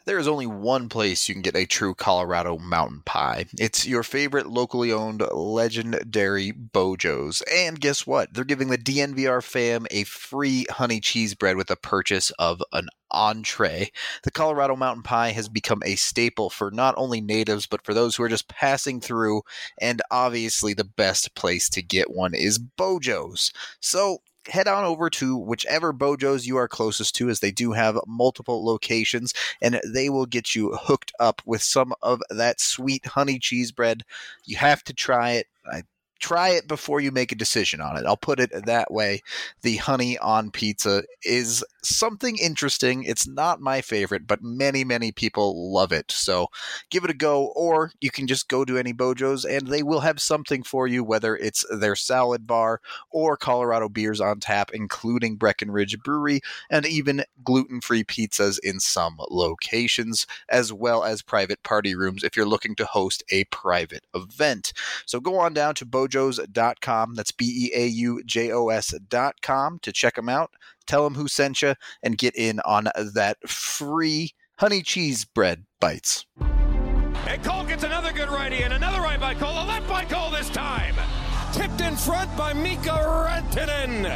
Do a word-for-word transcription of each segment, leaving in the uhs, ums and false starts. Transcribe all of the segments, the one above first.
There is only one place you can get a true Colorado mountain pie. It's your favorite locally owned legendary Bojo's. And guess what? They're giving the D N V R fam a free honey cheese bread with the purchase of an entree. The Colorado mountain pie has become a staple for not only natives, but for those who are just passing through. And obviously, the best place to get one is Bojo's. So, head on over to whichever Bojo's you are closest to, as they do have multiple locations, and they will get you hooked up with some of that sweet honey cheese bread. You have to try it. I Try it before you make a decision on it. I'll put it that way. The honey on pizza is something interesting. It's not my favorite, but many, many people love it. So give it a go, or you can just go to any Bojo's and they will have something for you, whether it's their salad bar or Colorado beers on tap, including Breckenridge Brewery, and even gluten-free pizzas in some locations, as well as private party rooms if you're looking to host a private event. So go on down to Bojo's dot com. That's B E A U J O S dot com to check them out. Tell them who sent you and get in on that free honey cheese bread bites. And Cole gets another good righty and another right by Cole. A left by Cole this time. Tipped in front by Mika Rantanen.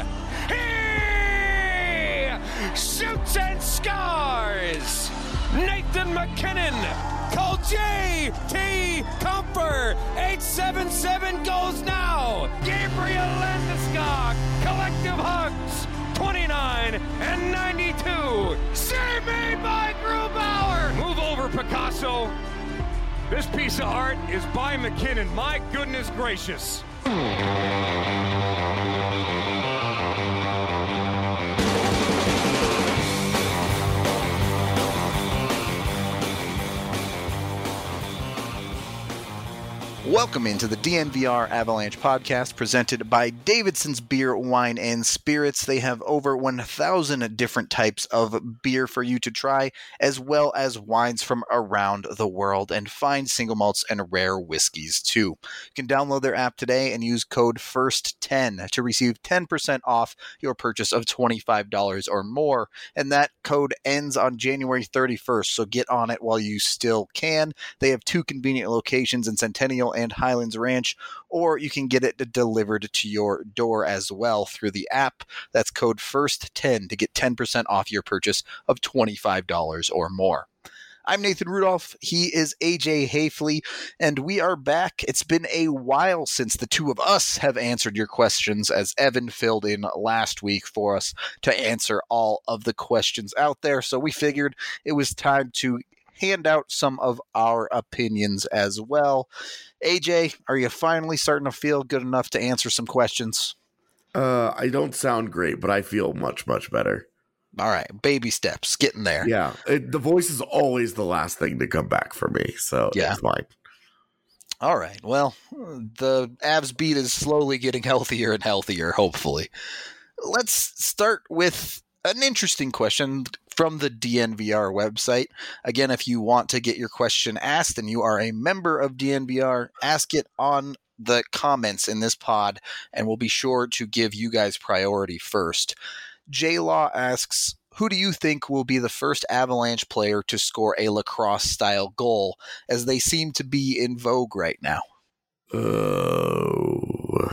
He shoots and scores. Nathan MacKinnon. Call J T Comfer. eight seven seven goes now. Gabriel Landeskog. Collective hugs. twenty-nine and ninety-two. Save made by Grubauer. Move over, Picasso. This piece of art is by McKinnon. My goodness gracious. Welcome into the D N V R Avalanche podcast presented by Davidson's Beer, Wine, and Spirits. They have over one thousand different types of beer for you to try, as well as wines from around the world, and fine single malts and rare whiskeys too. You can download their app today and use code first ten to receive ten percent off your purchase of twenty-five dollars or more, and that code ends on January thirty-first, so get on it while you still can. They have two convenient locations in Centennial and Highlands Ranch, or you can get it delivered to your door as well through the app. That's code first ten to get ten percent off your purchase of twenty-five dollars or more. I'm Nathan Rudolph. He is A J Hafley, and we are back. It's been a while since the two of us have answered your questions, as Evan filled in last week for us to answer all of the questions out there. So we figured it was time to hand out some of our opinions as well. A J, are you finally starting to feel good enough to answer some questions? Uh, I don't sound great, but I feel much, much better. All right, baby steps, getting there. Yeah, it, the voice is always the last thing to come back for me, so yeah. It's fine. All right, well, the Avs beat is slowly getting healthier and healthier, hopefully. Let's start with an interesting question from the D N V R website. Again, if you want to get your question asked and you are a member of D N V R, ask it on the comments in this pod, and we'll be sure to give you guys priority first. J-Law asks, who do you think will be the first Avalanche player to score a lacrosse-style goal, as they seem to be in vogue right now? Oh.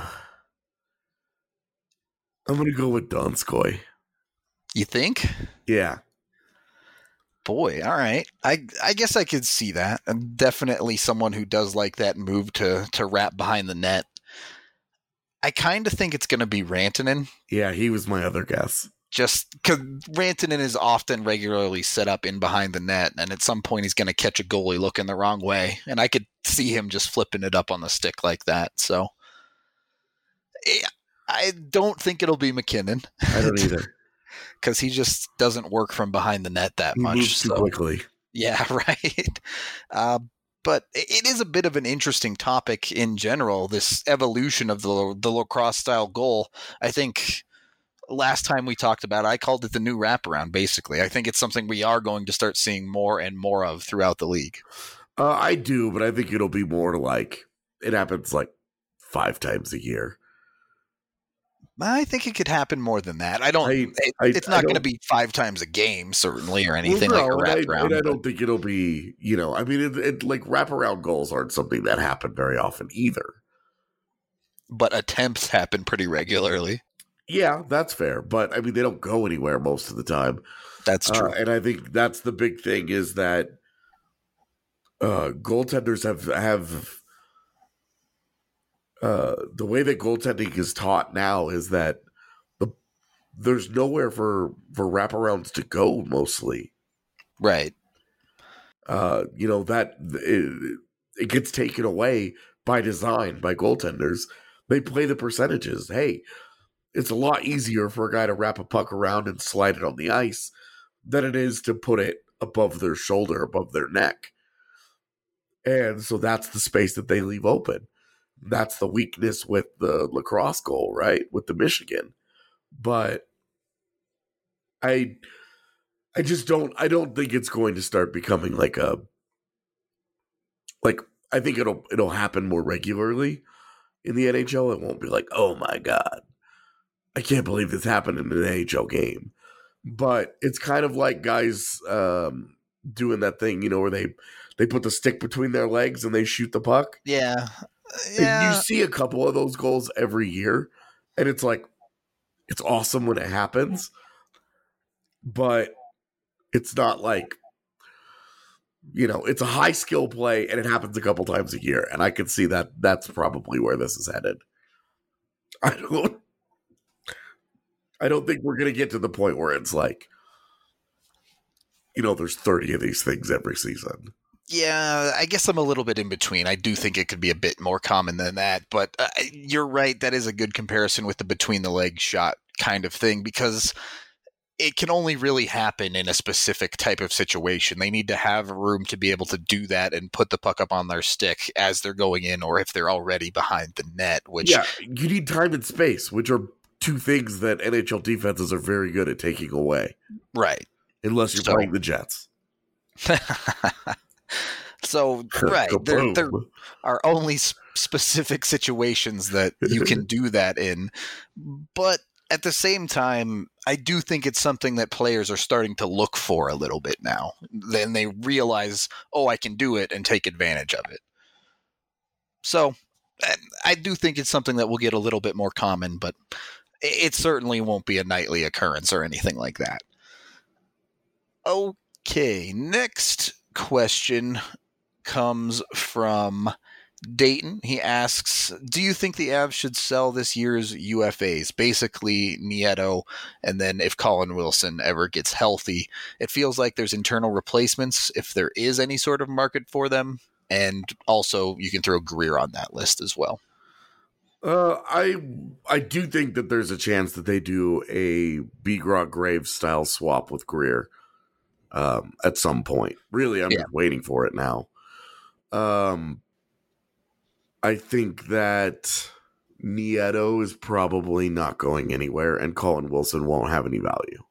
I'm going to go with Donskoy. You think? Yeah. Boy, all right. I I guess I could see that. I'm definitely someone who does like that move to, to wrap behind the net. I kind of think it's going to be Rantanen. Yeah, he was my other guess. Just because Rantanen is often regularly set up in behind the net, and at some point he's going to catch a goalie looking the wrong way, and I could see him just flipping it up on the stick like that. So yeah, I don't think it'll be MacKinnon. I don't either. Because he just doesn't work from behind the net that he much. Moves too so. quickly. Yeah, right. Uh, but it is a bit of an interesting topic in general, this evolution of the, the lacrosse-style goal. I think last time we talked about it, I called it the new wraparound, basically. I think it's something we are going to start seeing more and more of throughout the league. Uh, I do, but I think it'll be more like, it happens like five times a year. I think it could happen more than that. I don't. I, it, I, it's not going to be five times a game, certainly, or anything well, no, like a wraparound. And I, and I don't think it'll be. You know, I mean, it, it, like wraparound goals aren't something that happen very often either. But attempts happen pretty regularly. Yeah, that's fair. But I mean, they don't go anywhere most of the time. That's true. Uh, and I think that's the big thing is that uh, goaltenders have have. Uh, the way that goaltending is taught now is that the there's nowhere for for wraparounds to go mostly, right? Uh, you know that it, it gets taken away by design by goaltenders. They play the percentages. Hey, it's a lot easier for a guy to wrap a puck around and slide it on the ice than it is to put it above their shoulder, above their neck, and so that's the space that they leave open. That's the weakness with the lacrosse goal, right? With the Michigan. But I I just don't I don't think it's going to start becoming like a like I think it'll it'll happen more regularly in the N H L. It won't be like, oh my God, I can't believe this happened in an N H L game. But it's kind of like guys um, doing that thing, you know, where they they put the stick between their legs and they shoot the puck. Yeah. Yeah. And you see a couple of those goals every year, and it's like, it's awesome when it happens, but it's not like, you know, it's a high skill play, and it happens a couple times a year, and I can see that that's probably where this is headed. I don't, I don't think we're going to get to the point where it's like, you know, there's thirty of these things every season. Yeah, I guess I'm a little bit in between. I do think it could be a bit more common than that, but uh, you're right. That is a good comparison with the between the legs shot kind of thing, because it can only really happen in a specific type of situation. They need to have room to be able to do that and put the puck up on their stick as they're going in, or if they're already behind the net. Which yeah, you need time and space, which are two things that N H L defenses are very good at taking away. Right. Unless you're so, playing the Jets. So, right, there, there are only specific situations that you can do that in. But at the same time, I do think it's something that players are starting to look for a little bit now. Then they realize, oh, I can do it and take advantage of it. So, I do think it's something that will get a little bit more common, but it certainly won't be a nightly occurrence or anything like that. Okay, next question comes from Dayton. He asks, do you think the Avs should sell this year's U F As? Basically, Nieto, and then if Colin Wilson ever gets healthy. It feels like there's internal replacements if there is any sort of market for them. And also, you can throw Greer on that list as well. Uh, I I do think that there's a chance that they do a Begrot Graves style swap with Greer um, at some point. Really, I'm yeah. just waiting for it now. Um, I think that Nieto is probably not going anywhere, and Colin Wilson won't have any value.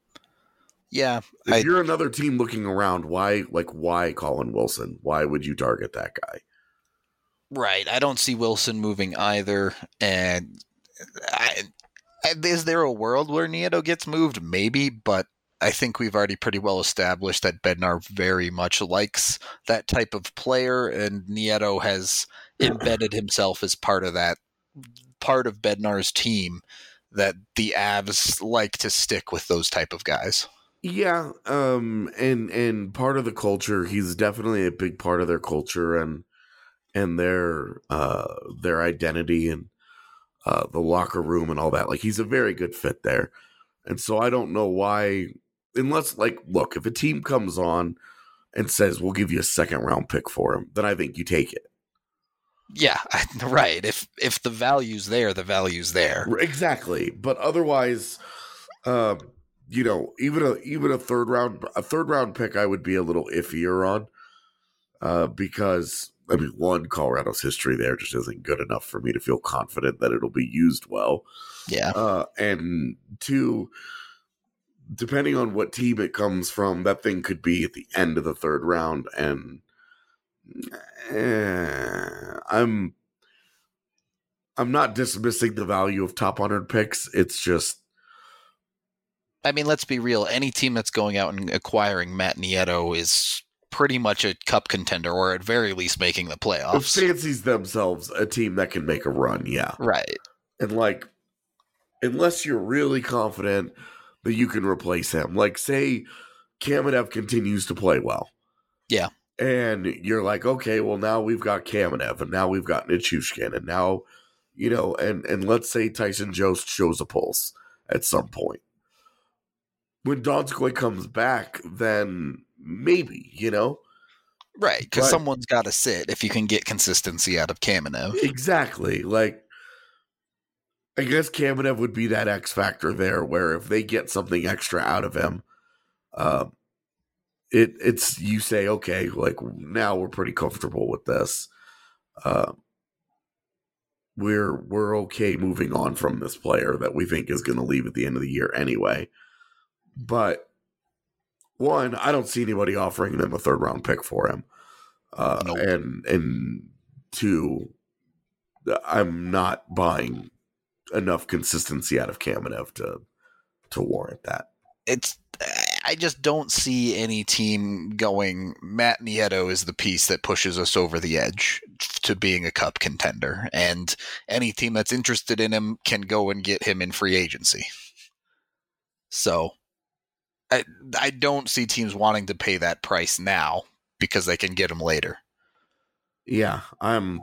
Yeah, if I, you're another team looking around, why, like, why Colin Wilson? Why would you target that guy? Right, I don't see Wilson moving either, and I, is there a world where Nieto gets moved? Maybe, but I think we've already pretty well established that Bednar very much likes that type of player, and Nieto has embedded himself as part of that, part of Bednar's team, that the Avs like to stick with those type of guys. Yeah, um, and and part of the culture, he's definitely a big part of their culture and and their uh, their identity and uh, the locker room and all that. Like, he's a very good fit there, and so I don't know why. Unless, like, look, if a team comes on and says, we'll give you a second round pick for him, then I think you take it. Yeah, right. If if the value's there, the value's there. Exactly. But otherwise, uh, you know, even a even a third round a third round pick I would be a little iffier on. Uh, because I mean, one, Colorado's history there just isn't good enough for me to feel confident that it'll be used well. Yeah. Uh, and two, depending on what team it comes from, that thing could be at the end of the third round, and eh, I'm I'm not dismissing the value of top one hundred picks. It's just, I mean, let's be real. Any team that's going out and acquiring Matt Nieto is pretty much a cup contender, or at very least making the it playoffs. fancies themselves a team that can make a run. Yeah. Right. And like, unless you're really confident that you can replace him, like say Kamenev continues to play well. Yeah. And you're like, okay, well now we've got Kamenev and now we've got Nichushkin and now, you know, and, and let's say Tyson Jost shows a pulse at some point. When Donskoy comes back, then maybe, you know? Right, because But- someone's got to sit if you can get consistency out of Kamenev. Exactly. Like, I guess Kamenev would be that X factor there where if they get something extra out of him, uh, it it's you say, okay, like now we're pretty comfortable with this. Uh, we're we're okay moving on from this player that we think is going to leave at the end of the year anyway. But one, I don't see anybody offering them a third round pick for him. Uh, Nope. and and two, I'm not buying enough consistency out of Kamenev to to warrant that. It's I just don't see any team going, Matt Nieto is the piece that pushes us over the edge to being a cup contender. And any team that's interested in him can go and get him in free agency. So I, I don't see teams wanting to pay that price now because they can get him later. Yeah, I'm.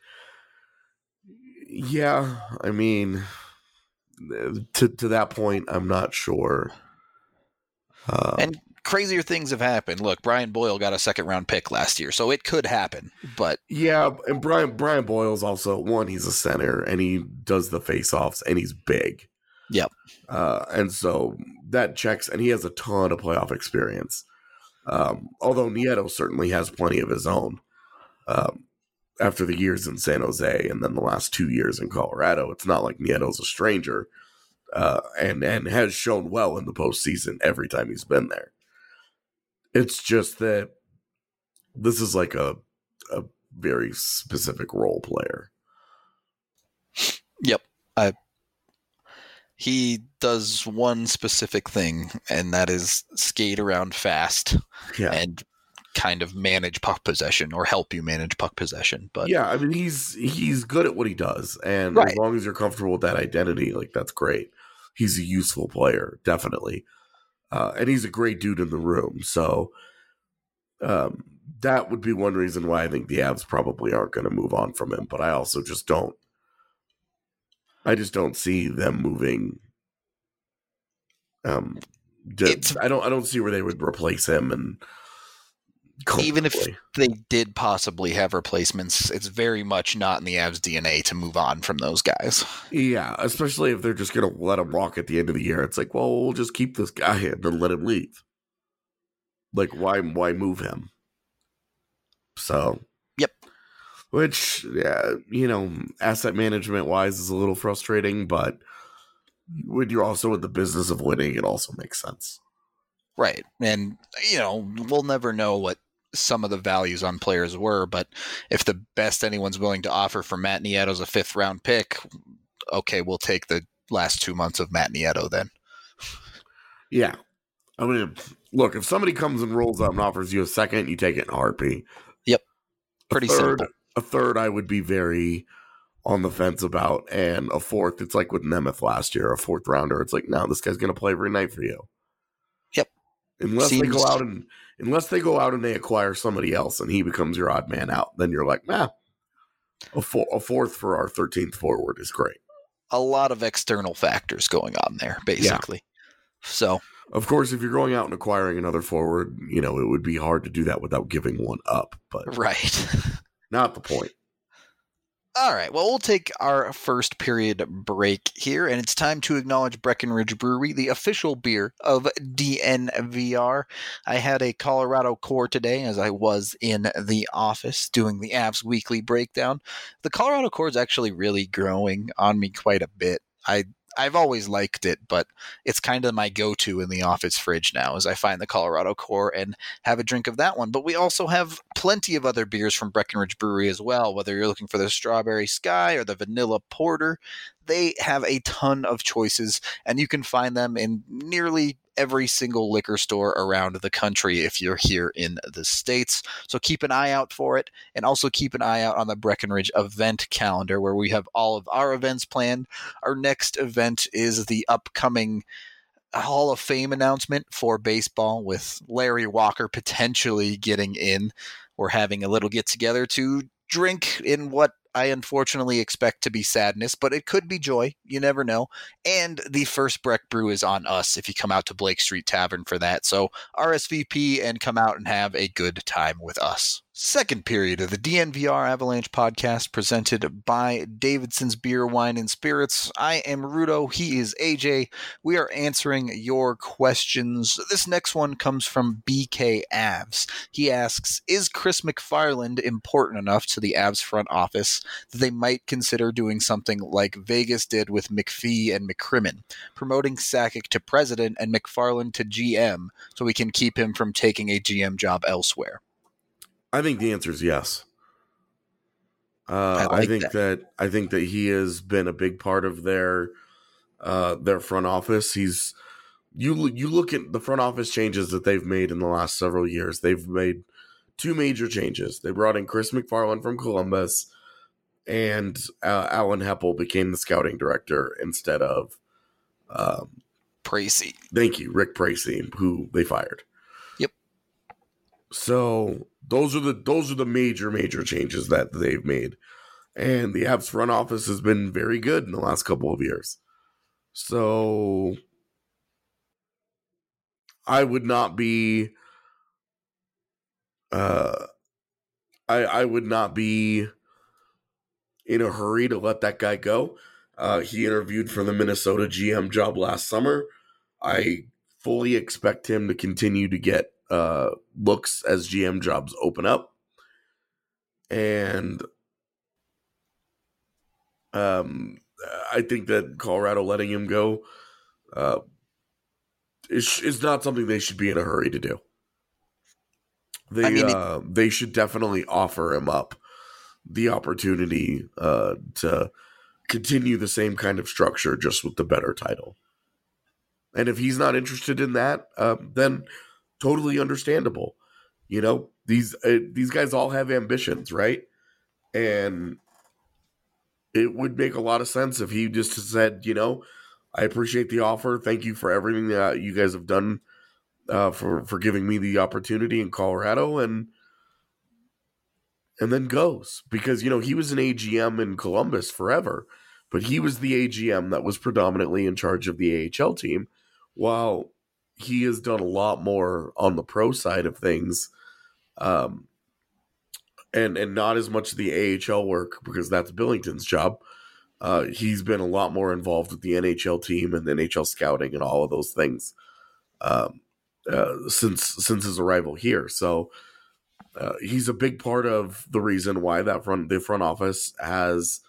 Yeah, I mean, to to that point, I'm not sure. Uh, And crazier things have happened. Look, Brian Boyle got a second round pick last year, so it could happen. But yeah, and Brian Brian Boyle's also one. He's a center, and he does the face-offs, and he's big. Yep. Uh, and so that checks, and he has a ton of playoff experience. Um, although Nieto certainly has plenty of his own. Um, after the years in San Jose and then the last two years in Colorado, it's not like Nieto's a stranger, uh, and and has shown well in the postseason every time he's been there. It's just that this is like a a very specific role player. Yep. I, he does one specific thing, and that is skate around fast Yeah, and kind of manage puck possession or help you manage puck possession. But yeah. I mean, he's he's good at what he does, and Right. as long as you're comfortable with that identity, like that's great. He's a useful player, definitely, uh, and he's a great dude in the room. So um, that would be one reason why I think the Avs probably aren't going to move on from him. But I also just don't. I just don't see them moving. Um, d- It's- I don't. I don't see where they would replace him, and even if comfortably. they did possibly have replacements, it's very much not in the Avs D N A to move on from those guys. Yeah, especially if they're just going to let him walk at the end of the year. It's like, well, we'll just keep this guy and then let him leave. Like, why why move him? So, Yep. Which, yeah, you know, asset management wise is a little frustrating, but when you're also in the business of winning, it also makes sense. Right. And, you know, we'll never know what some of the values on players were, but if the best anyone's willing to offer for Matt Nieto is a fifth round pick, okay, we'll take the last two months of Matt Nieto then. Yeah. I mean, look, if somebody comes and rolls up and offers you a second, you take it in a heartbeat. Yep. A Pretty third, simple. A third, I would be very on the fence about, and a fourth, it's like with Nemeth last year, a fourth rounder. It's like, no, this guy's going to play every night for you. Yep. Unless Seems- they go out and unless they go out and they acquire somebody else and he becomes your odd man out, then you're like, nah, a, four, a fourth for our thirteenth forward is great. A lot of external factors going on there, basically. So, Of course, if you're going out and acquiring another forward, you know, it would be hard to do that without giving one up, but right. not the point. All right. Well, we'll take our first period break here, and it's time to acknowledge Breckenridge Brewery, the official beer of D N V R. I had a Colorado Core today as I was in the office doing the Avs weekly breakdown. The Colorado Core is actually really growing on me quite a bit. I I've always liked it, but it's kind of my go-to in the office fridge now as I find the Colorado Core and have a drink of that one. But we also have plenty of other beers from Breckenridge Brewery as well, whether you're looking for the Strawberry Sky or the Vanilla Porter. They have a ton of choices, and you can find them in nearly every single liquor store around the country if you're here in the States. So keep an eye out for it, and also keep an eye out on the Breckenridge event calendar where we have all of our events planned. Our next event is the upcoming Hall of Fame announcement for baseball with Larry Walker potentially getting in. We're having a little get-together to drink in what I unfortunately expect to be sadness, but it could be joy. You never know. And the first Breck Brew is on us if you come out to Blake Street Tavern for that. So R S V P and come out and have a good time with us. Second period of the D N V R Avalanche podcast presented by Davidson's Beer, Wine, and Spirits. I am Rudo. He is A J. We are answering your questions. This next one comes from B K Avs. He asks, is Chris McFarland important enough to the Avs front office that they might consider doing something like Vegas did with McPhee and McCrimmon, promoting Sakic to president and McFarland to G M so we can keep him from taking a G M job elsewhere? I think the answer is yes. Uh, I, like I think that. that I think that he has been a big part of their uh, their front office. He's you you look at the front office changes that they've made in the last several years. They've made two major changes. They brought in Chris McFarland from Columbus, and uh, Alan Heppel became the scouting director instead of um, Precy. Thank you, Rick Precy, who they fired. Yep. So those are the those are the major major changes that they've made, and the Avs front office has been very good in the last couple of years. So I would not be, uh, I I would not be in a hurry to let that guy go. Uh, he interviewed for the Minnesota G M job last summer. I fully expect him to continue to get uh, looks as G M jobs open up. And um, I think that Colorado letting him go uh, is, is not something they should be in a hurry to do. They, I mean, uh, it- they should definitely offer him up the opportunity uh, to continue the same kind of structure, just with the better title. And if he's not interested in that, uh, then totally understandable. You know, these uh, these guys all have ambitions, right? And it would make a lot of sense if he just said, you know, I appreciate the offer. Thank you for everything that you guys have done uh, for for giving me the opportunity in Colorado, and and then goes. Because, you know, he was an A G M in Columbus forever, but he was the A G M that was predominantly in charge of the A H L team, while he has done a lot more on the pro side of things, um, and and not as much of the A H L work, because that's Billington's job. Uh, he's been a lot more involved with the N H L team and the N H L scouting and all of those things um, uh, since since his arrival here. So uh, he's a big part of the reason why that front the front office has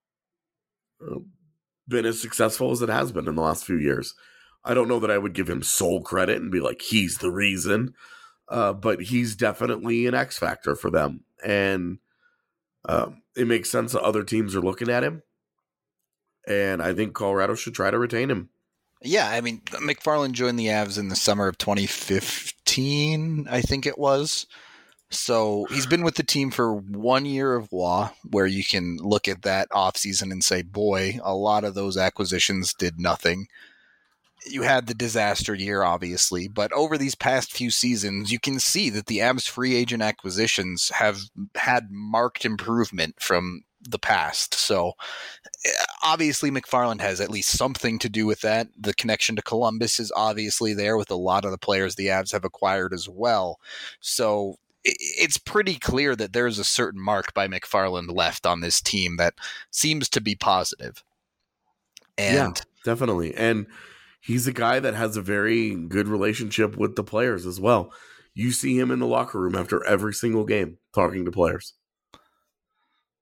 uh, been as successful as it has been in the last few years. I don't know that I would give him sole credit and be like, he's the reason, uh, but he's definitely an X factor for them. And um, it makes sense that other teams are looking at him. And I think Colorado should try to retain him. Yeah, I mean, McFarland joined the Avs in the summer of twenty fifteen, I think it was. So he's been with the team for one year of W A, where you can look at that offseason and say, boy, a lot of those acquisitions did nothing. You had the disaster year, obviously, but over these past few seasons, you can see that the Avs free agent acquisitions have had marked improvement from the past. So obviously McFarland has at least something to do with that. The connection to Columbus is obviously there with a lot of the players the Avs have acquired as well. So it's pretty clear that there's a certain mark by McFarland left on this team that seems to be positive. And yeah, definitely. And he's a guy that has a very good relationship with the players as well. You see him in the locker room after every single game talking to players.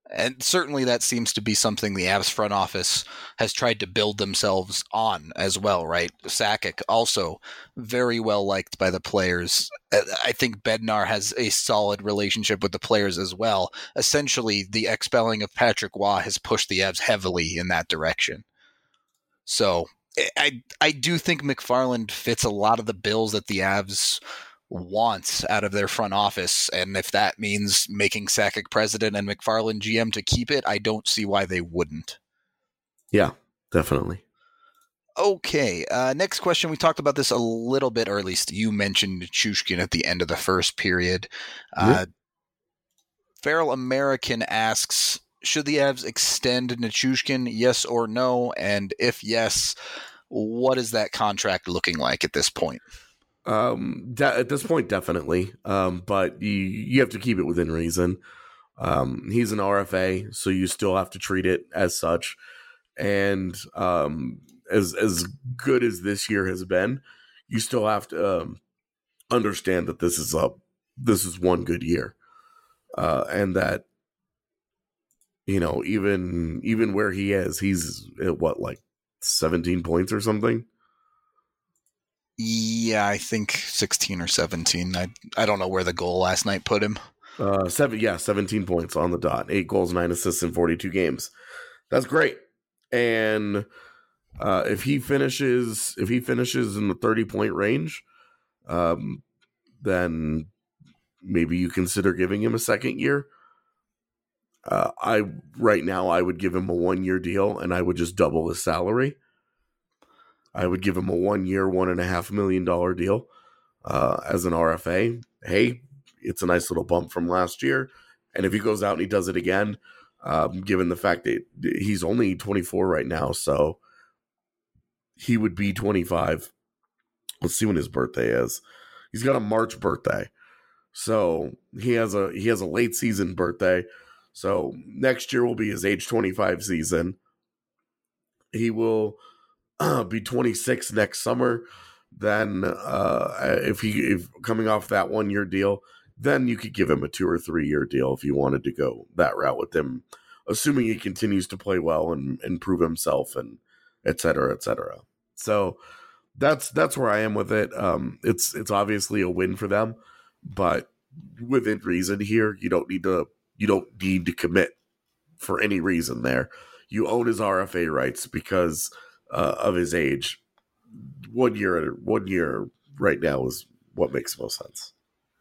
And certainly that seems to be something the Avs front office has tried to build themselves on as well, right? Sakic also very well liked by the players. I think Bednar has a solid relationship with the players as well. Essentially, the expelling of Patrick Waugh has pushed the Avs heavily in that direction. So I I do think McFarland fits a lot of the bills that the Avs wants out of their front office, and if that means making Sakic president and McFarland G M to keep it, I don't see why they wouldn't. Yeah, definitely. Okay, uh, next question. We talked about this a little bit, or at least you mentioned Nichushkin at the end of the first period. Uh, Yeah. Feral American asks, should the Avs extend Nichushkin, yes or no? And if yes, what is that contract looking like at this point? Um, de- at this point, definitely. Um, but you you have to keep it within reason. Um, he's an R F A, so you still have to treat it as such. And um, as as good as this year has been, you still have to um, understand that this is a this is one good year, uh, and that you know even even where he is, he's at what, like seventeen points or something. Yeah, I think sixteen or seventeen. I I don't know where the goal last night put him. Uh, seven, yeah, seventeen points on the dot, eight goals, nine assists in forty-two games. That's great. And uh, if he finishes, if he finishes in the thirty point range, um, then maybe you consider giving him a second year. Uh, I right now I would give him a one year deal, and I would just double his salary. I would give him a one year, one and a half million dollar deal uh, as an R F A. Hey, it's a nice little bump from last year. And if he goes out and he does it again, um, given the fact that he's only twenty-four right now, so he would be twenty-five. Let's see when his birthday is. He's got a March birthday, so he has a he has a late season birthday. So next year will be his age twenty-five season. He will uh, be twenty-six next summer. Then, uh, if he if coming off that one year deal, then you could give him a two or three year deal if you wanted to go that route with him, assuming he continues to play well and, and prove himself, and et cetera, et cetera. So that's that's where I am with it. Um, it's it's obviously a win for them, but within reason here, you don't need to you don't need to commit for any reason there. You own his R F A rights because uh, of his age. One year, one year right now is what makes most sense.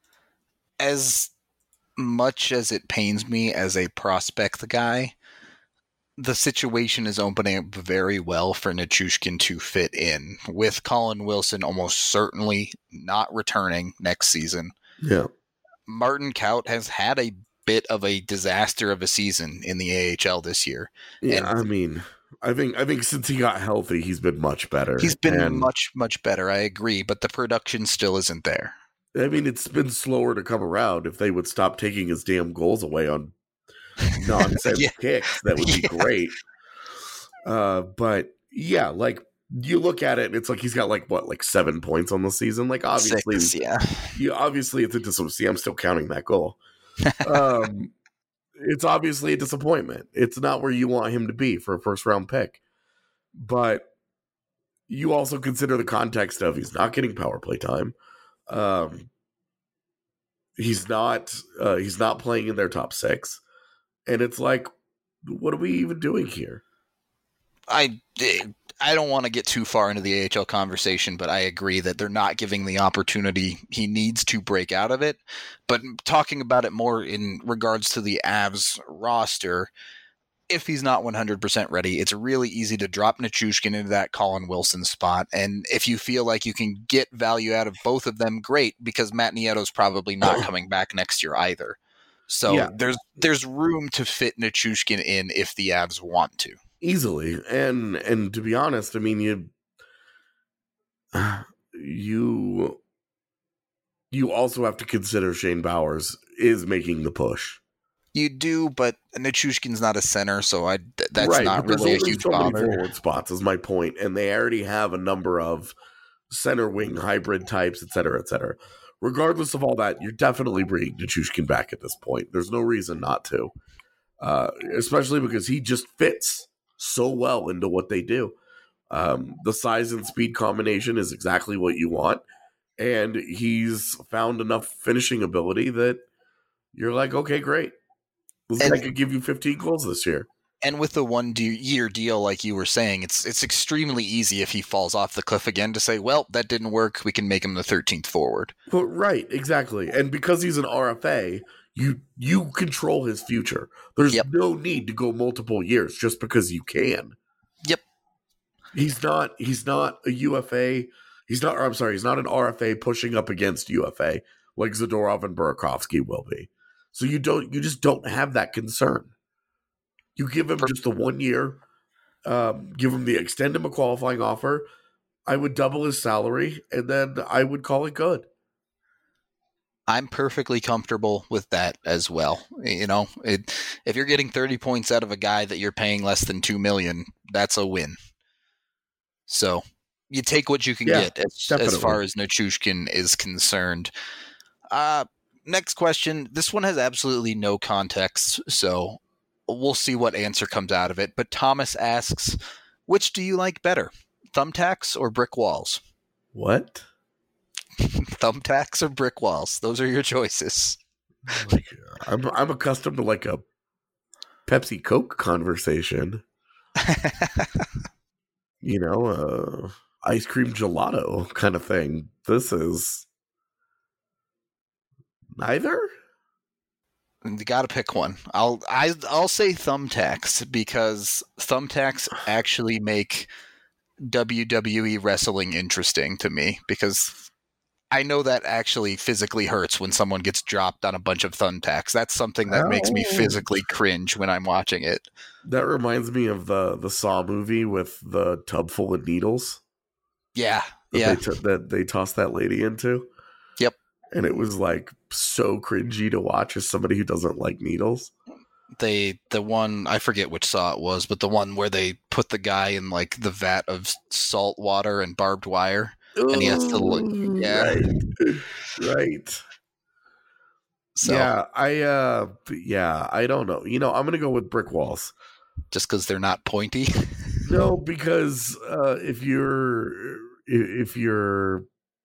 As much as it pains me as a prospect guy, the situation is opening up very well for Nichushkin to fit in, with Colin Wilson almost certainly not returning next season. Yeah. Martin Kaut has had a bit of a disaster of a season in the A H L this year. Yeah, and I mean, I think I think since he got healthy, he's been much better. He's been and, much, much better, I agree, but the production still isn't there. I mean, it's been slower to come around. If they would stop taking his damn goals away on nonsense yeah. kicks, that would be yeah. great. Uh, but yeah, like you look at it, and it's like he's got like what, like seven points on the season. Like obviously, Six, yeah, you obviously it's a dis- see. I'm still counting that goal. Um, it's obviously a disappointment. It's not where you want him to be for a first round pick. But you also consider the context of he's not getting power play time. Um, he's not uh, he's not playing in their top six, and it's like, what are we even doing here? I I don't want to get too far into the A H L conversation, but I agree that they're not giving the opportunity he needs to break out of it. But talking about it more in regards to the Avs roster, if he's not one hundred percent ready, it's really easy to drop Nichushkin into that Colin Wilson spot. And if you feel like you can get value out of both of them, great, because Matt Nieto's probably not coming back next year either. So yeah. there's there's room to fit Nichushkin in if the Avs want to. Easily. And and to be honest, I mean, you you you also have to consider Shane Bowers is making the push. You do, but Nichushkin's not a center, so I that's right, not but really a there's huge so many bother. forward spots is my point, and they already have a number of center wing hybrid types, et cetera, et cetera. Regardless of all that, you're definitely bringing Nichushkin back at this point. There's no reason not to. uh, especially because he just fits so well into what they do. Um, the size and speed combination is exactly what you want, and he's found enough finishing ability that you're like, okay, great. This And- guy could give you fifteen goals this year. And with the one de- year deal, like you were saying, it's it's extremely easy if he falls off the cliff again to say, well, that didn't work. We can make him the thirteenth forward. Well, right, exactly. And because he's an R F A, you you control his future. There's Yep. no need to go multiple years just because you can. Yep. He's not he's not a U F A. He's not or I'm sorry, he's not an R F A pushing up against U F A like Zadorov and Burakovsky will be. So you don't you just don't have that concern. You give him just the one year, um, give him the extend him a qualifying offer. I would double his salary, and then I would call it good. I'm perfectly comfortable with that as well. You know, it, if you're getting thirty points out of a guy that you're paying less than two million, that's a win. So you take what you can Yeah, get as, definitely. as far as Nichushkin is concerned. Uh, next question. This one has absolutely no context, so we'll see what answer comes out of it. But Thomas asks, which do you like better, thumbtacks or brick walls? What? Thumbtacks or brick walls? Those are your choices. Like, I'm I'm accustomed to like a Pepsi Coke conversation. You know, uh, ice cream gelato kind of thing. This is neither. You got to pick one. I'll I, I'll say thumbtacks because thumbtacks actually make W W E wrestling interesting to me because I know that actually physically hurts when someone gets dropped on a bunch of thumbtacks. That's something that makes me Oh. physically cringe when I'm watching it. That reminds me of the the Saw movie with the tub full of needles Yeah, that yeah. they t- that they tossed that lady into. Yep. And it was like so cringy to watch as somebody who doesn't like needles. They the one I forget which Saw it was, but the one where they put the guy in like the vat of salt water and barbed wire. And he has to look- Ooh, yeah. Right. Right. So Yeah, I uh yeah, I don't know. You know, I'm gonna go with brick walls. just because they're not pointy. No, because uh if you're if you're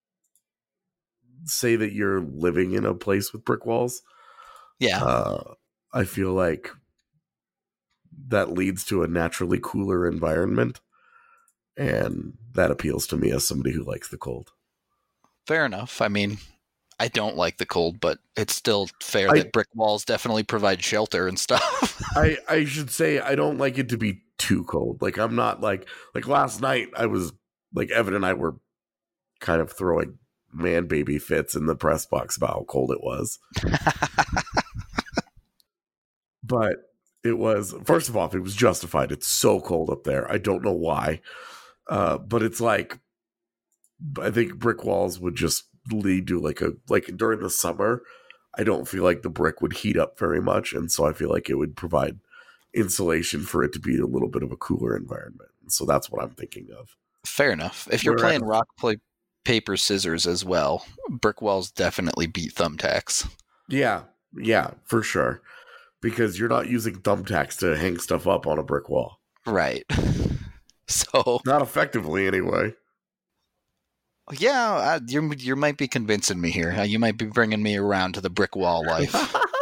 say that you're living in a place with brick walls, Yeah. uh I feel like that leads to a naturally cooler environment. And that appeals to me as somebody who likes the cold. Fair enough. I mean, I don't like the cold, but it's still fair I- that brick walls definitely provide shelter and stuff. I, I should say I don't like it to be too cold. Like I'm not like like last night I was like Evan and I were kind of throwing man baby fits in the press box about how cold it was. But it was first of all, it was justified. It's so cold up there. I don't know why. Uh, but it's like I think brick walls would just lead to like a like during the summer. I don't feel like the brick would heat up very much, and so I feel like it would provide insulation for it to be a little bit of a cooler environment. So that's what I'm thinking of. Fair enough. If you're Whereas- playing rock, play paper, scissors as well, brick walls definitely beat thumbtacks. Yeah, yeah, for sure. Because you're not using thumbtacks to hang stuff up on a brick wall. Right. So, Not effectively, anyway. yeah, uh, you you might be convincing me here. Uh, You might be bringing me around to the brick wall life.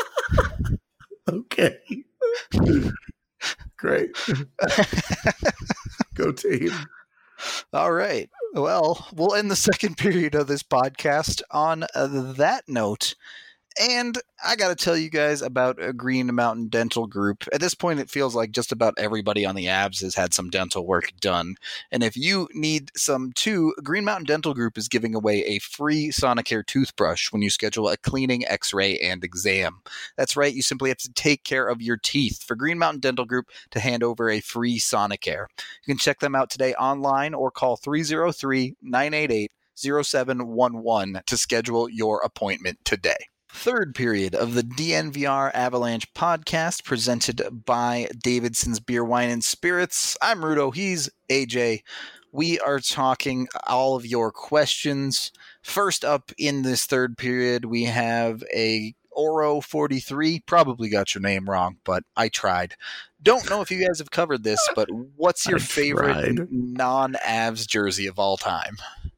Okay. Great. Go team. All right. Well, we'll end the second period of this podcast on uh, that note. And I got to tell you guys about a Green Mountain Dental Group. At this point, it feels like just about everybody on the Abs has had some dental work done. And if you need some too, Green Mountain Dental Group is giving away a free Sonicare toothbrush when you schedule a cleaning, x-ray, and exam. That's right. You simply have to take care of your teeth for Green Mountain Dental Group to hand over a free Sonicare. You can check them out today online or call three oh three, nine eight eight, oh seven one one to schedule your appointment today. Third period of the D N V R Avalanche podcast presented by Davidson's Beer, Wine, and Spirits. I'm Rudo. He's A J. We are talking all of your questions. First up in this third period, we have a Oro forty-three, probably got your name wrong, but I tried. Don't know if you guys have covered this, but what's your I favorite tried. non-Avs jersey of all time?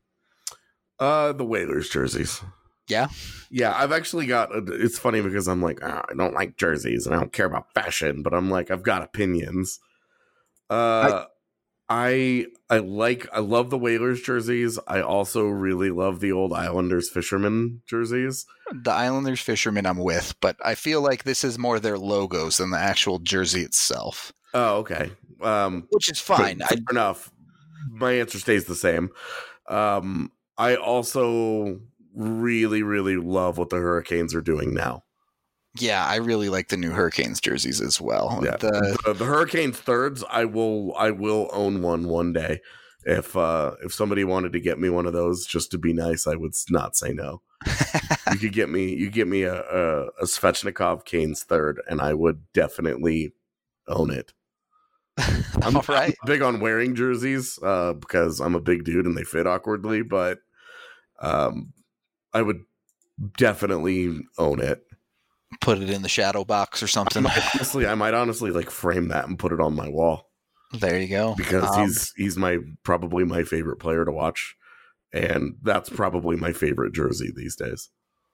Uh, the Whalers jerseys. Yeah? Yeah, I've actually got, a, it's funny because I'm like, oh, I don't like jerseys and I don't care about fashion, but I'm like, I've got opinions. Uh, I, I like, I love the Whalers jerseys. I also really love the old Islanders fisherman jerseys. The Islanders fishermen I'm with, but I feel like this is more their logos than the actual jersey itself. Oh, okay. Um, Which is fine. Fair I, enough. My answer stays the same. Um, I also really, really love what the Hurricanes are doing now. yeah, I really like the new Hurricanes jerseys as well. Yeah, The, the, the Hurricanes thirds, I will, I will own one one day. If uh, if somebody wanted to get me one of those just to be nice, I would not say no. You could get me, you get me a, a, a Svechnikov Canes third, and I would definitely own it. I'm, all right. I'm big on wearing jerseys uh, because I'm a big dude and they fit awkwardly, but um, I would definitely own it. Put it in the shadow box or I something. might, honestly, I might honestly like frame that and put it on my wall There you go. because Um, he's he's my probably my favorite player to watch, and that's probably my favorite jersey these days.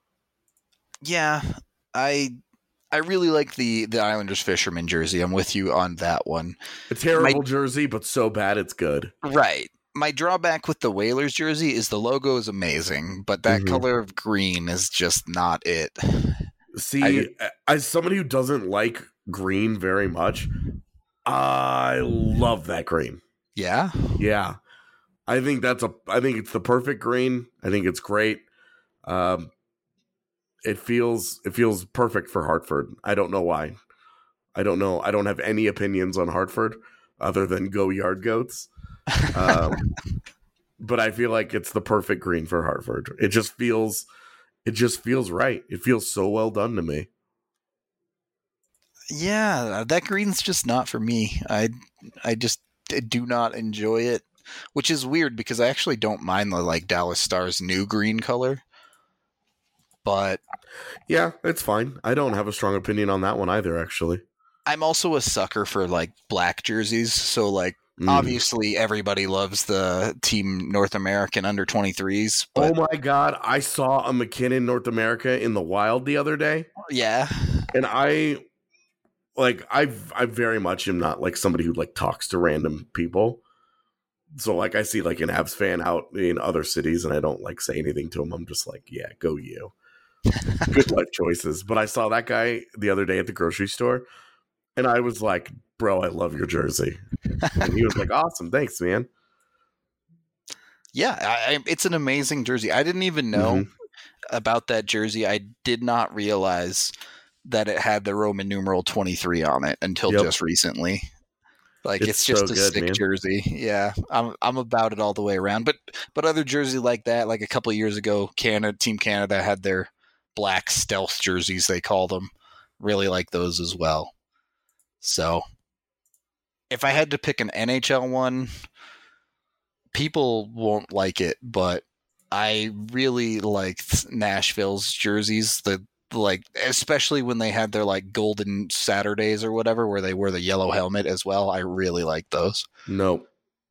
Yeah, I I really like the the Islanders fisherman jersey. I'm with you on that one. A terrible My- jersey, but so bad it's good. Right. My drawback with the Whalers jersey is the logo is amazing, but that Mhm. color of green is just not it. See, I- as somebody who doesn't like green very much, I love that green. Yeah. Yeah, I think that's a. I think it's the perfect green. I think it's great. Um, it feels it feels perfect for Hartford. I don't know why. I don't know. I don't have any opinions on Hartford other than go Yard Goats. Um, but I feel like it's the perfect green for Hartford. It just feels. It just feels right. It feels so well done to me. Yeah, that green's just not for me. I I just do not enjoy it, which is weird because I actually don't mind the like Dallas Stars new green color. But Yeah, it's fine. I don't have a strong opinion on that one either, actually. I'm also a sucker for like black jerseys, so like Mm. obviously everybody loves the Team North American under twenty-threes, but Oh my god, I saw a McKinnon North America in the wild the other day, yeah. and I like I I very much am not like somebody who like talks to random people. So like I see like an Avs fan out in other cities and I don't like say anything to him. I'm just like, yeah, go you. Good life choices. But I saw that guy the other day at the grocery store and I was like, bro, I love your jersey. And he was like, awesome, thanks, man. Yeah, I, I, it's an amazing jersey. I didn't even know Mhm. about that jersey. I did not realize that it had the Roman numeral twenty-three on it until Yep. just recently. Like it's, It's just so a good, sick man. jersey. Yeah, I'm I'm about it all the way around. But but other jerseys like that, like a couple of years ago, Canada Team Canada had their black stealth jerseys. They call them. Really like those as well. So if I had to pick an N H L one, people won't like it, but I really liked Nashville's jerseys. The like, especially when they had their like Golden Saturdays or whatever, where they wear the yellow helmet as well. I really like those. Nope.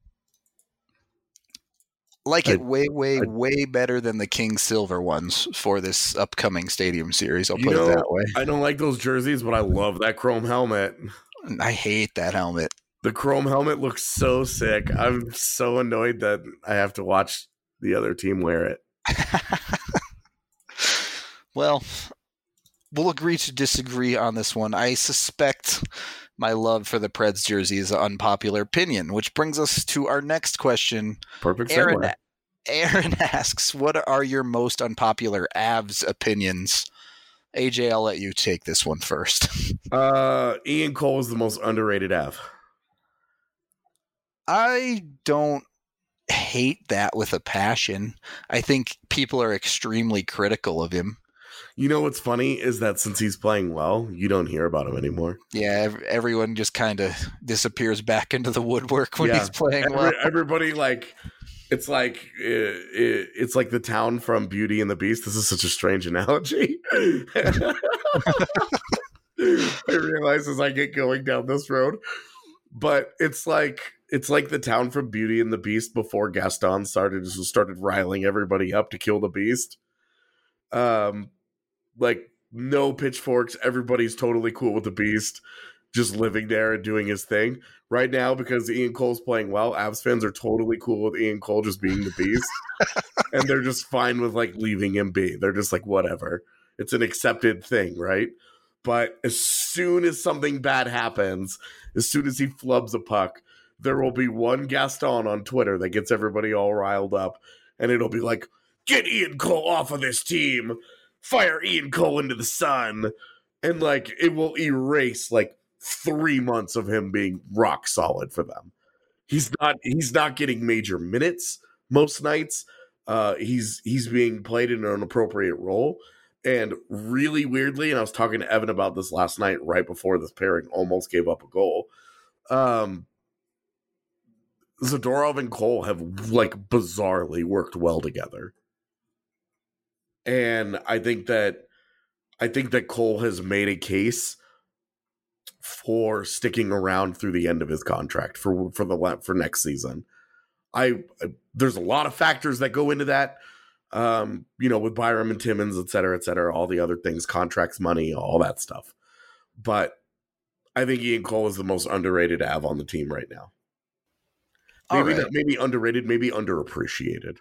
Like I- it way, way, I- way better than the King Silver ones for this upcoming Stadium Series. I'll You put know, it that way. I don't like those jerseys, but I love that chrome helmet. I hate that helmet. The chrome helmet looks so sick. I'm so annoyed that I have to watch the other team wear it. Well, we'll agree to disagree on this one. I suspect my love for the Preds jersey is an unpopular opinion, which brings us to our next question. Perfect Aaron, segue. Aaron asks, what are your most unpopular Avs opinions? A J, I'll let you take this one first. Uh, Ian Cole is the most underrated Av. I don't hate that with a passion. I think people are extremely critical of him. You know what's funny is that since he's playing well, you don't hear about him anymore. Yeah, ev- everyone just kind of disappears back into the woodwork when Yeah. he's playing Every- well. everybody like It's like it, it, it's like the town from Beauty and the Beast. This is such a strange analogy. I realize as I get going down this road, but it's like it's like the town from Beauty and the Beast before Gaston started started riling everybody up to kill the Beast. Um, like no pitchforks. Everybody's totally cool with the Beast, just living there and doing his thing. Right now, because Ian Cole's playing well, Avs fans are totally cool with Ian Cole just being the Beast. And they're just fine with, like, leaving him be. They're just like, whatever. It's an accepted thing, right? But as soon as something bad happens, as soon as he flubs a puck, there will be one Gaston on Twitter that gets everybody all riled up. And it'll be like, get Ian Cole off of this team. Fire Ian Cole into the sun. And, like, it will erase, like, three months of him being rock solid for them. He's not he's not getting major minutes most nights. Uh, he's he's being played in an appropriate role. And really weirdly, and I was talking to Evan about this last night right before this pairing almost gave up a goal. Um, Zadorov and Cole have like bizarrely worked well together. And I think that I think that Cole has made a case for sticking around through the end of his contract for for the for next season. I, I there's a lot of factors that go into that, um, you know, with Byram and Timmins, et cetera, et cetera, all the other things, contracts, money, all that stuff. But I think Ian Cole is the most underrated Av on the team right now. Maybe right. not, maybe underrated, maybe underappreciated.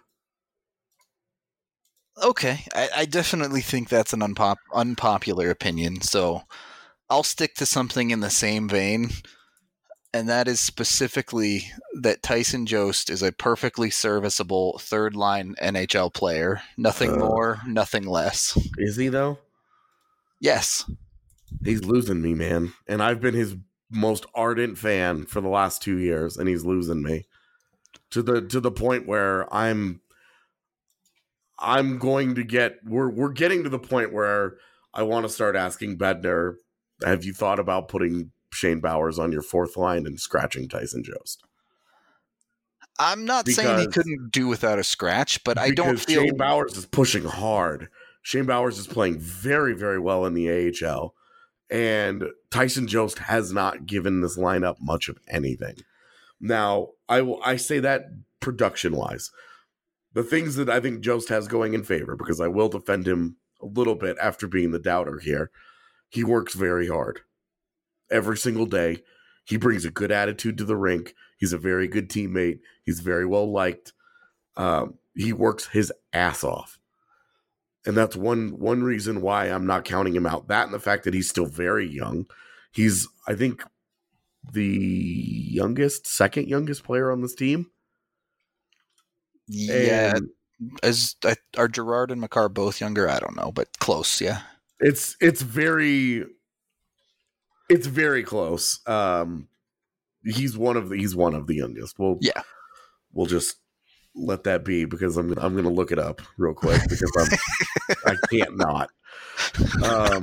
Okay, I, I definitely think that's an unpop- unpopular opinion, so I'll stick to something in the same vein, and that is specifically that Tyson Jost is a perfectly serviceable third-line N H L player. Nothing uh, more, nothing less. Is he, though? Yes. He's losing me, man. And I've been his most ardent fan for the last two years, and he's losing me. To the to the point where I'm I'm going to get we're we're getting to the point where I want to start asking Bednar, have you thought about putting Shane Bowers on your fourth line and scratching Tyson Jost? I'm not because, saying he couldn't do without a scratch, but I don't feel Shane Bowers is pushing hard. Shane Bowers is playing very, very well in the A H L, and Tyson Jost has not given this lineup much of anything. Now, I will I say that production-wise. The things that I think Jost has going in favor, because I will defend him a little bit after being the doubter here, he works very hard. Every single day, he brings a good attitude to the rink. He's a very good teammate. He's very well liked. Um, he works his ass off. And that's one one reason why I'm not counting him out. That and the fact that he's still very young. He's, I think, the youngest, second youngest player on this team. Yeah. And As uh, are Gerard and Makar both younger? I don't know, but close, yeah. It's it's very it's very close. Um, he's one of the he's one of the youngest. We'll yeah. We'll just let that be because I'm I'm gonna look it up real quick because I'm I can't not. Um,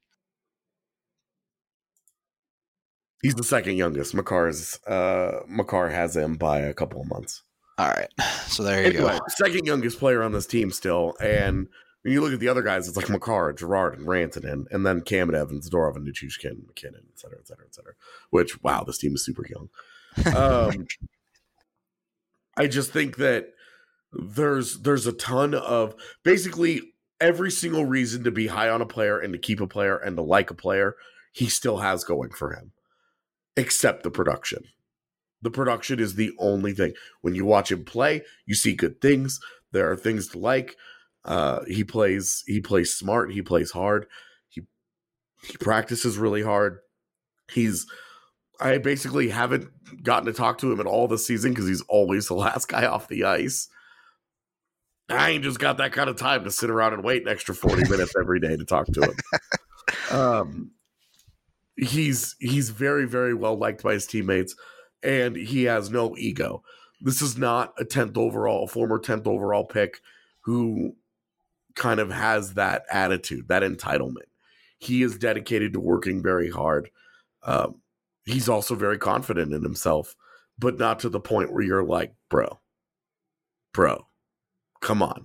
he's the second youngest. Makar's uh, Makar has him by a couple of months. All right, so there you anyway, go. Second youngest player on this team still, and when you look at the other guys, it's like Makar, Gerard, and Rantanen, and then Cam and Evans, Dorov, and Nichushkin, McKinnon, et cetera, et cetera, et cetera. Which, wow, this team is super young. Um, I just think that there's there's a ton of basically every single reason to be high on a player and to keep a player and to like a player, he still has going for him, except the production. The production is the only thing. When you watch him play, you see good things. There are things to like. Uh, he plays. He plays smart. He plays hard. He he practices really hard. He's. I basically haven't gotten to talk to him at all this season because he's always the last guy off the ice. I ain't just got that kind of time to sit around and wait an extra forty minutes every day to talk to him. Um, he's he's very very well liked by his teammates. And he has no ego. This is not a tenth overall, a former tenth overall pick who kind of has that attitude, that entitlement. He is dedicated to working very hard. Um, he's also very confident in himself, but not to the point where you're like, bro, bro, come on.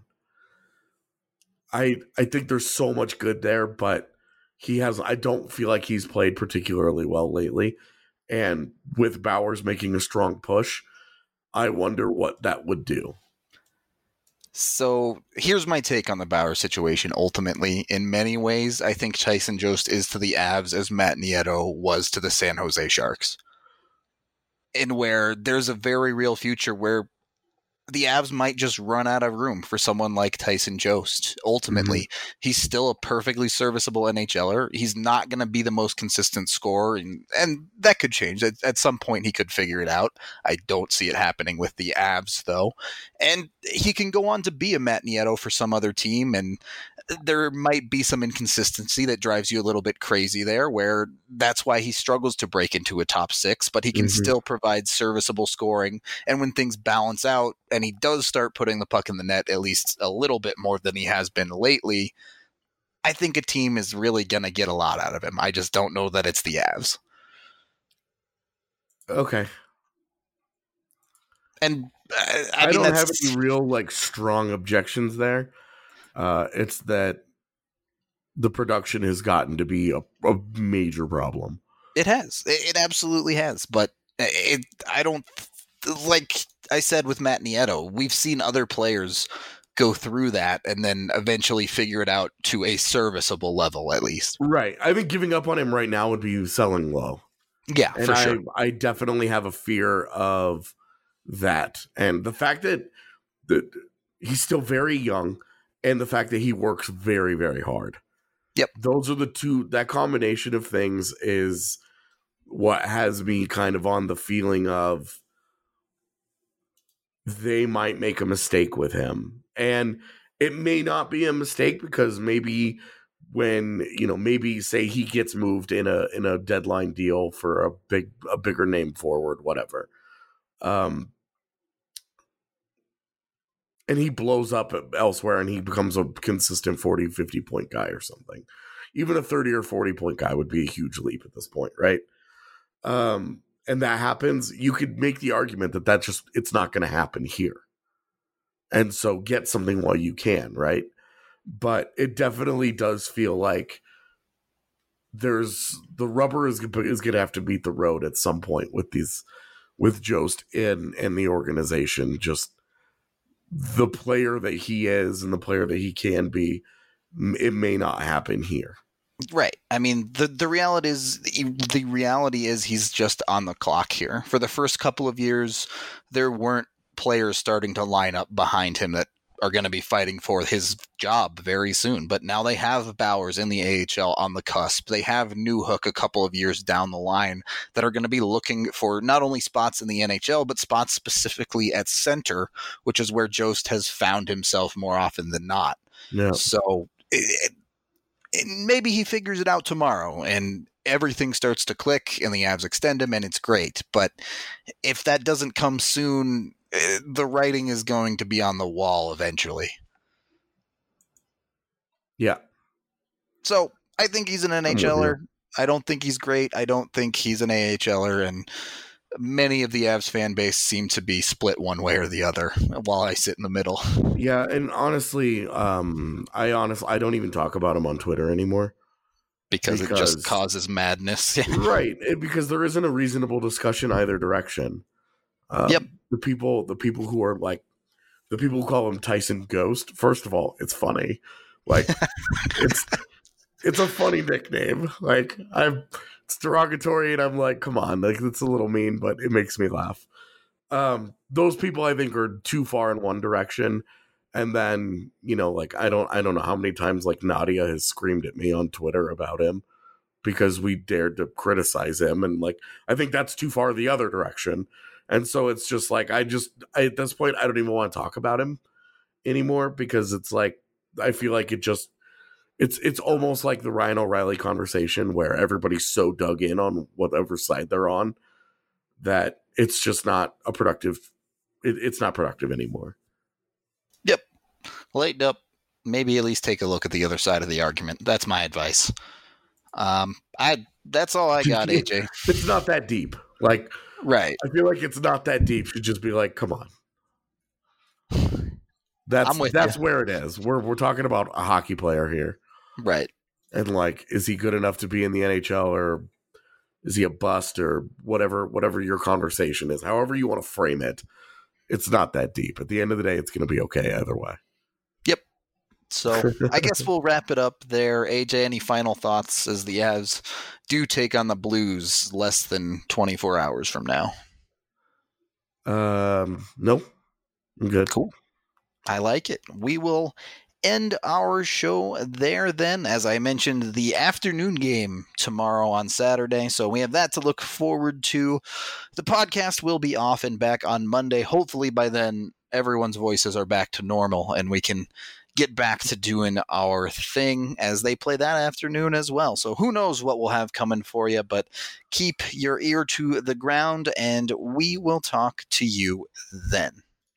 I I think there's so much good there, but he has. I don't feel like he's played particularly well lately. And with Bowers making a strong push, I wonder what that would do. So here's my take on the Bauer situation. Ultimately, in many ways, I think Tyson Jost is to the Avs as Matt Nieto was to the San Jose Sharks. And where there's a very real future where the Avs might just run out of room for someone like Tyson Jost. Ultimately, mm-hmm. he's still a perfectly serviceable NHLer. He's not going to be the most consistent scorer, and, and that could change. At, at some point, he could figure it out. I don't see it happening with the Avs, though. And he can go on to be a Matt Nieto for some other team, and there might be some inconsistency that drives you a little bit crazy there, where that's why he struggles to break into a top six, but he can mm-hmm. still provide serviceable scoring. And when things balance out and he does start putting the puck in the net at least a little bit more than he has been lately, I think a team is really going to get a lot out of him. I just don't know that it's the Avs. Okay. And uh, I, I mean, don't that's... have any real like strong objections there. Uh, it's that the production has gotten to be a, a major problem. It has. It, it absolutely has. But it, I don't, like I said with Matt Nieto, we've seen other players go through that and then eventually figure it out to a serviceable level, at least. Right. I think giving up on him right now would be selling low. Yeah, and for I, sure. I definitely have a fear of that. And the fact that, that he's still very young, and the fact that he works very, very hard. Yep. Those are the two, that combination of things is what has me kind of on the feeling of they might make a mistake with him. And it may not be a mistake because maybe when, you know, maybe say he gets moved in a in a deadline deal for a big a bigger name forward, whatever. Um And he blows up elsewhere and he becomes a consistent forty, fifty point guy or something. Even a thirty or forty point guy would be a huge leap at this point, right? Um, and that happens. You could make the argument that that just, it's not going to happen here. And so get something while you can, right? But it definitely does feel like there's, the rubber is, is going to have to meet the road at some point with these, with Jost in, and the organization. Just, the player that he is and the player that he can be, it may not happen here. Right. I mean, the the reality is the reality is he's just on the clock here. For the first couple of years, there weren't players starting to line up behind him that are going to be fighting for his job very soon. But now they have Bowers in the A H L on the cusp. They have Newhook a couple of years down the line that are going to be looking for not only spots in the N H L, but spots specifically at center, which is where Jost has found himself more often than not. Yeah. So it, it, maybe he figures it out tomorrow and everything starts to click and the Avs extend him and it's great. But if that doesn't come soon, the writing is going to be on the wall eventually. Yeah. So I think he's an NHLer. I don't think he's great. I don't think he's an AHLer. And many of the Avs fan base seem to be split one way or the other while I sit in the middle. Yeah. And honestly, um, I honestly, I don't even talk about him on Twitter anymore. Because, because it just causes madness. Right. It, because there isn't a reasonable discussion either direction. Um, yep. The people, the people who are like, the people who call him Tyson Ghost. First of all, it's funny. Like, it's it's a funny nickname. Like, I'm, it's derogatory, and I'm like, come on, like it's a little mean, but it makes me laugh. Um, those people, I think, are too far in one direction, and then you know, like I don't, I don't know how many times like Nadia has screamed at me on Twitter about him because we dared to criticize him, and like I think that's too far the other direction. And so it's just like, I just, I, at this point, I don't even want to talk about him anymore because it's like, I feel like it just, it's, it's almost like the Ryan O'Reilly conversation where everybody's so dug in on whatever side they're on that it's just not a productive, it, it's not productive anymore. Yep. Lighten up. Maybe at least take a look at the other side of the argument. That's my advice. Um, I, that's all I got, A J. It's not that deep. Like, right. I feel like it's not that deep. Should just be like, come on. That's I'm with that's ya. where it is. We're we're talking about a hockey player here. Right. And like, is he good enough to be in the N H L, or is he a bust, or whatever whatever your conversation is, however you want to frame it, it's not that deep. At the end of the day, it's going to be okay either way. Yep. So I guess we'll wrap it up there. A J, any final thoughts as the Avs do take on the Blues less than twenty-four hours from now? Um, no, I'm good. Cool. I like it. We will end our show there then. As I mentioned, the afternoon game tomorrow on Saturday, so we have that to look forward to. The podcast will be off and back on Monday. Hopefully by then everyone's voices are back to normal and we can get back to doing our thing as they play that afternoon as well. So who knows what we'll have coming for you, but keep your ear to the ground and we will talk to you then.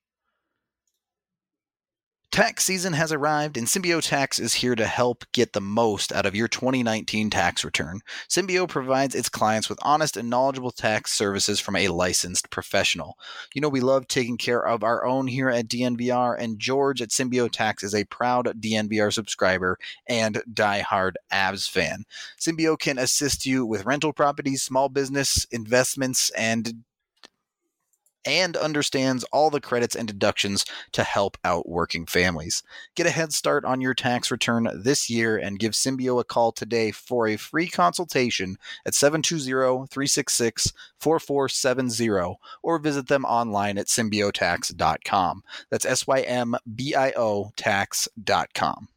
Tax season has arrived, and Symbio Tax is here to help get the most out of your twenty nineteen tax return. Symbio provides its clients with honest and knowledgeable tax services from a licensed professional. You know, we love taking care of our own here at D N V R, and George at Symbio Tax is a proud D N V R subscriber and diehard Avs fan. Symbio can assist you with rental properties, small business, investments, and and understands all the credits and deductions to help out working families. Get a head start on your tax return this year and give Symbio a call today for a free consultation at seven two zero, three six six, four four seven zero or visit them online at symbio tax dot com. That's S Y M B I O tax dot com.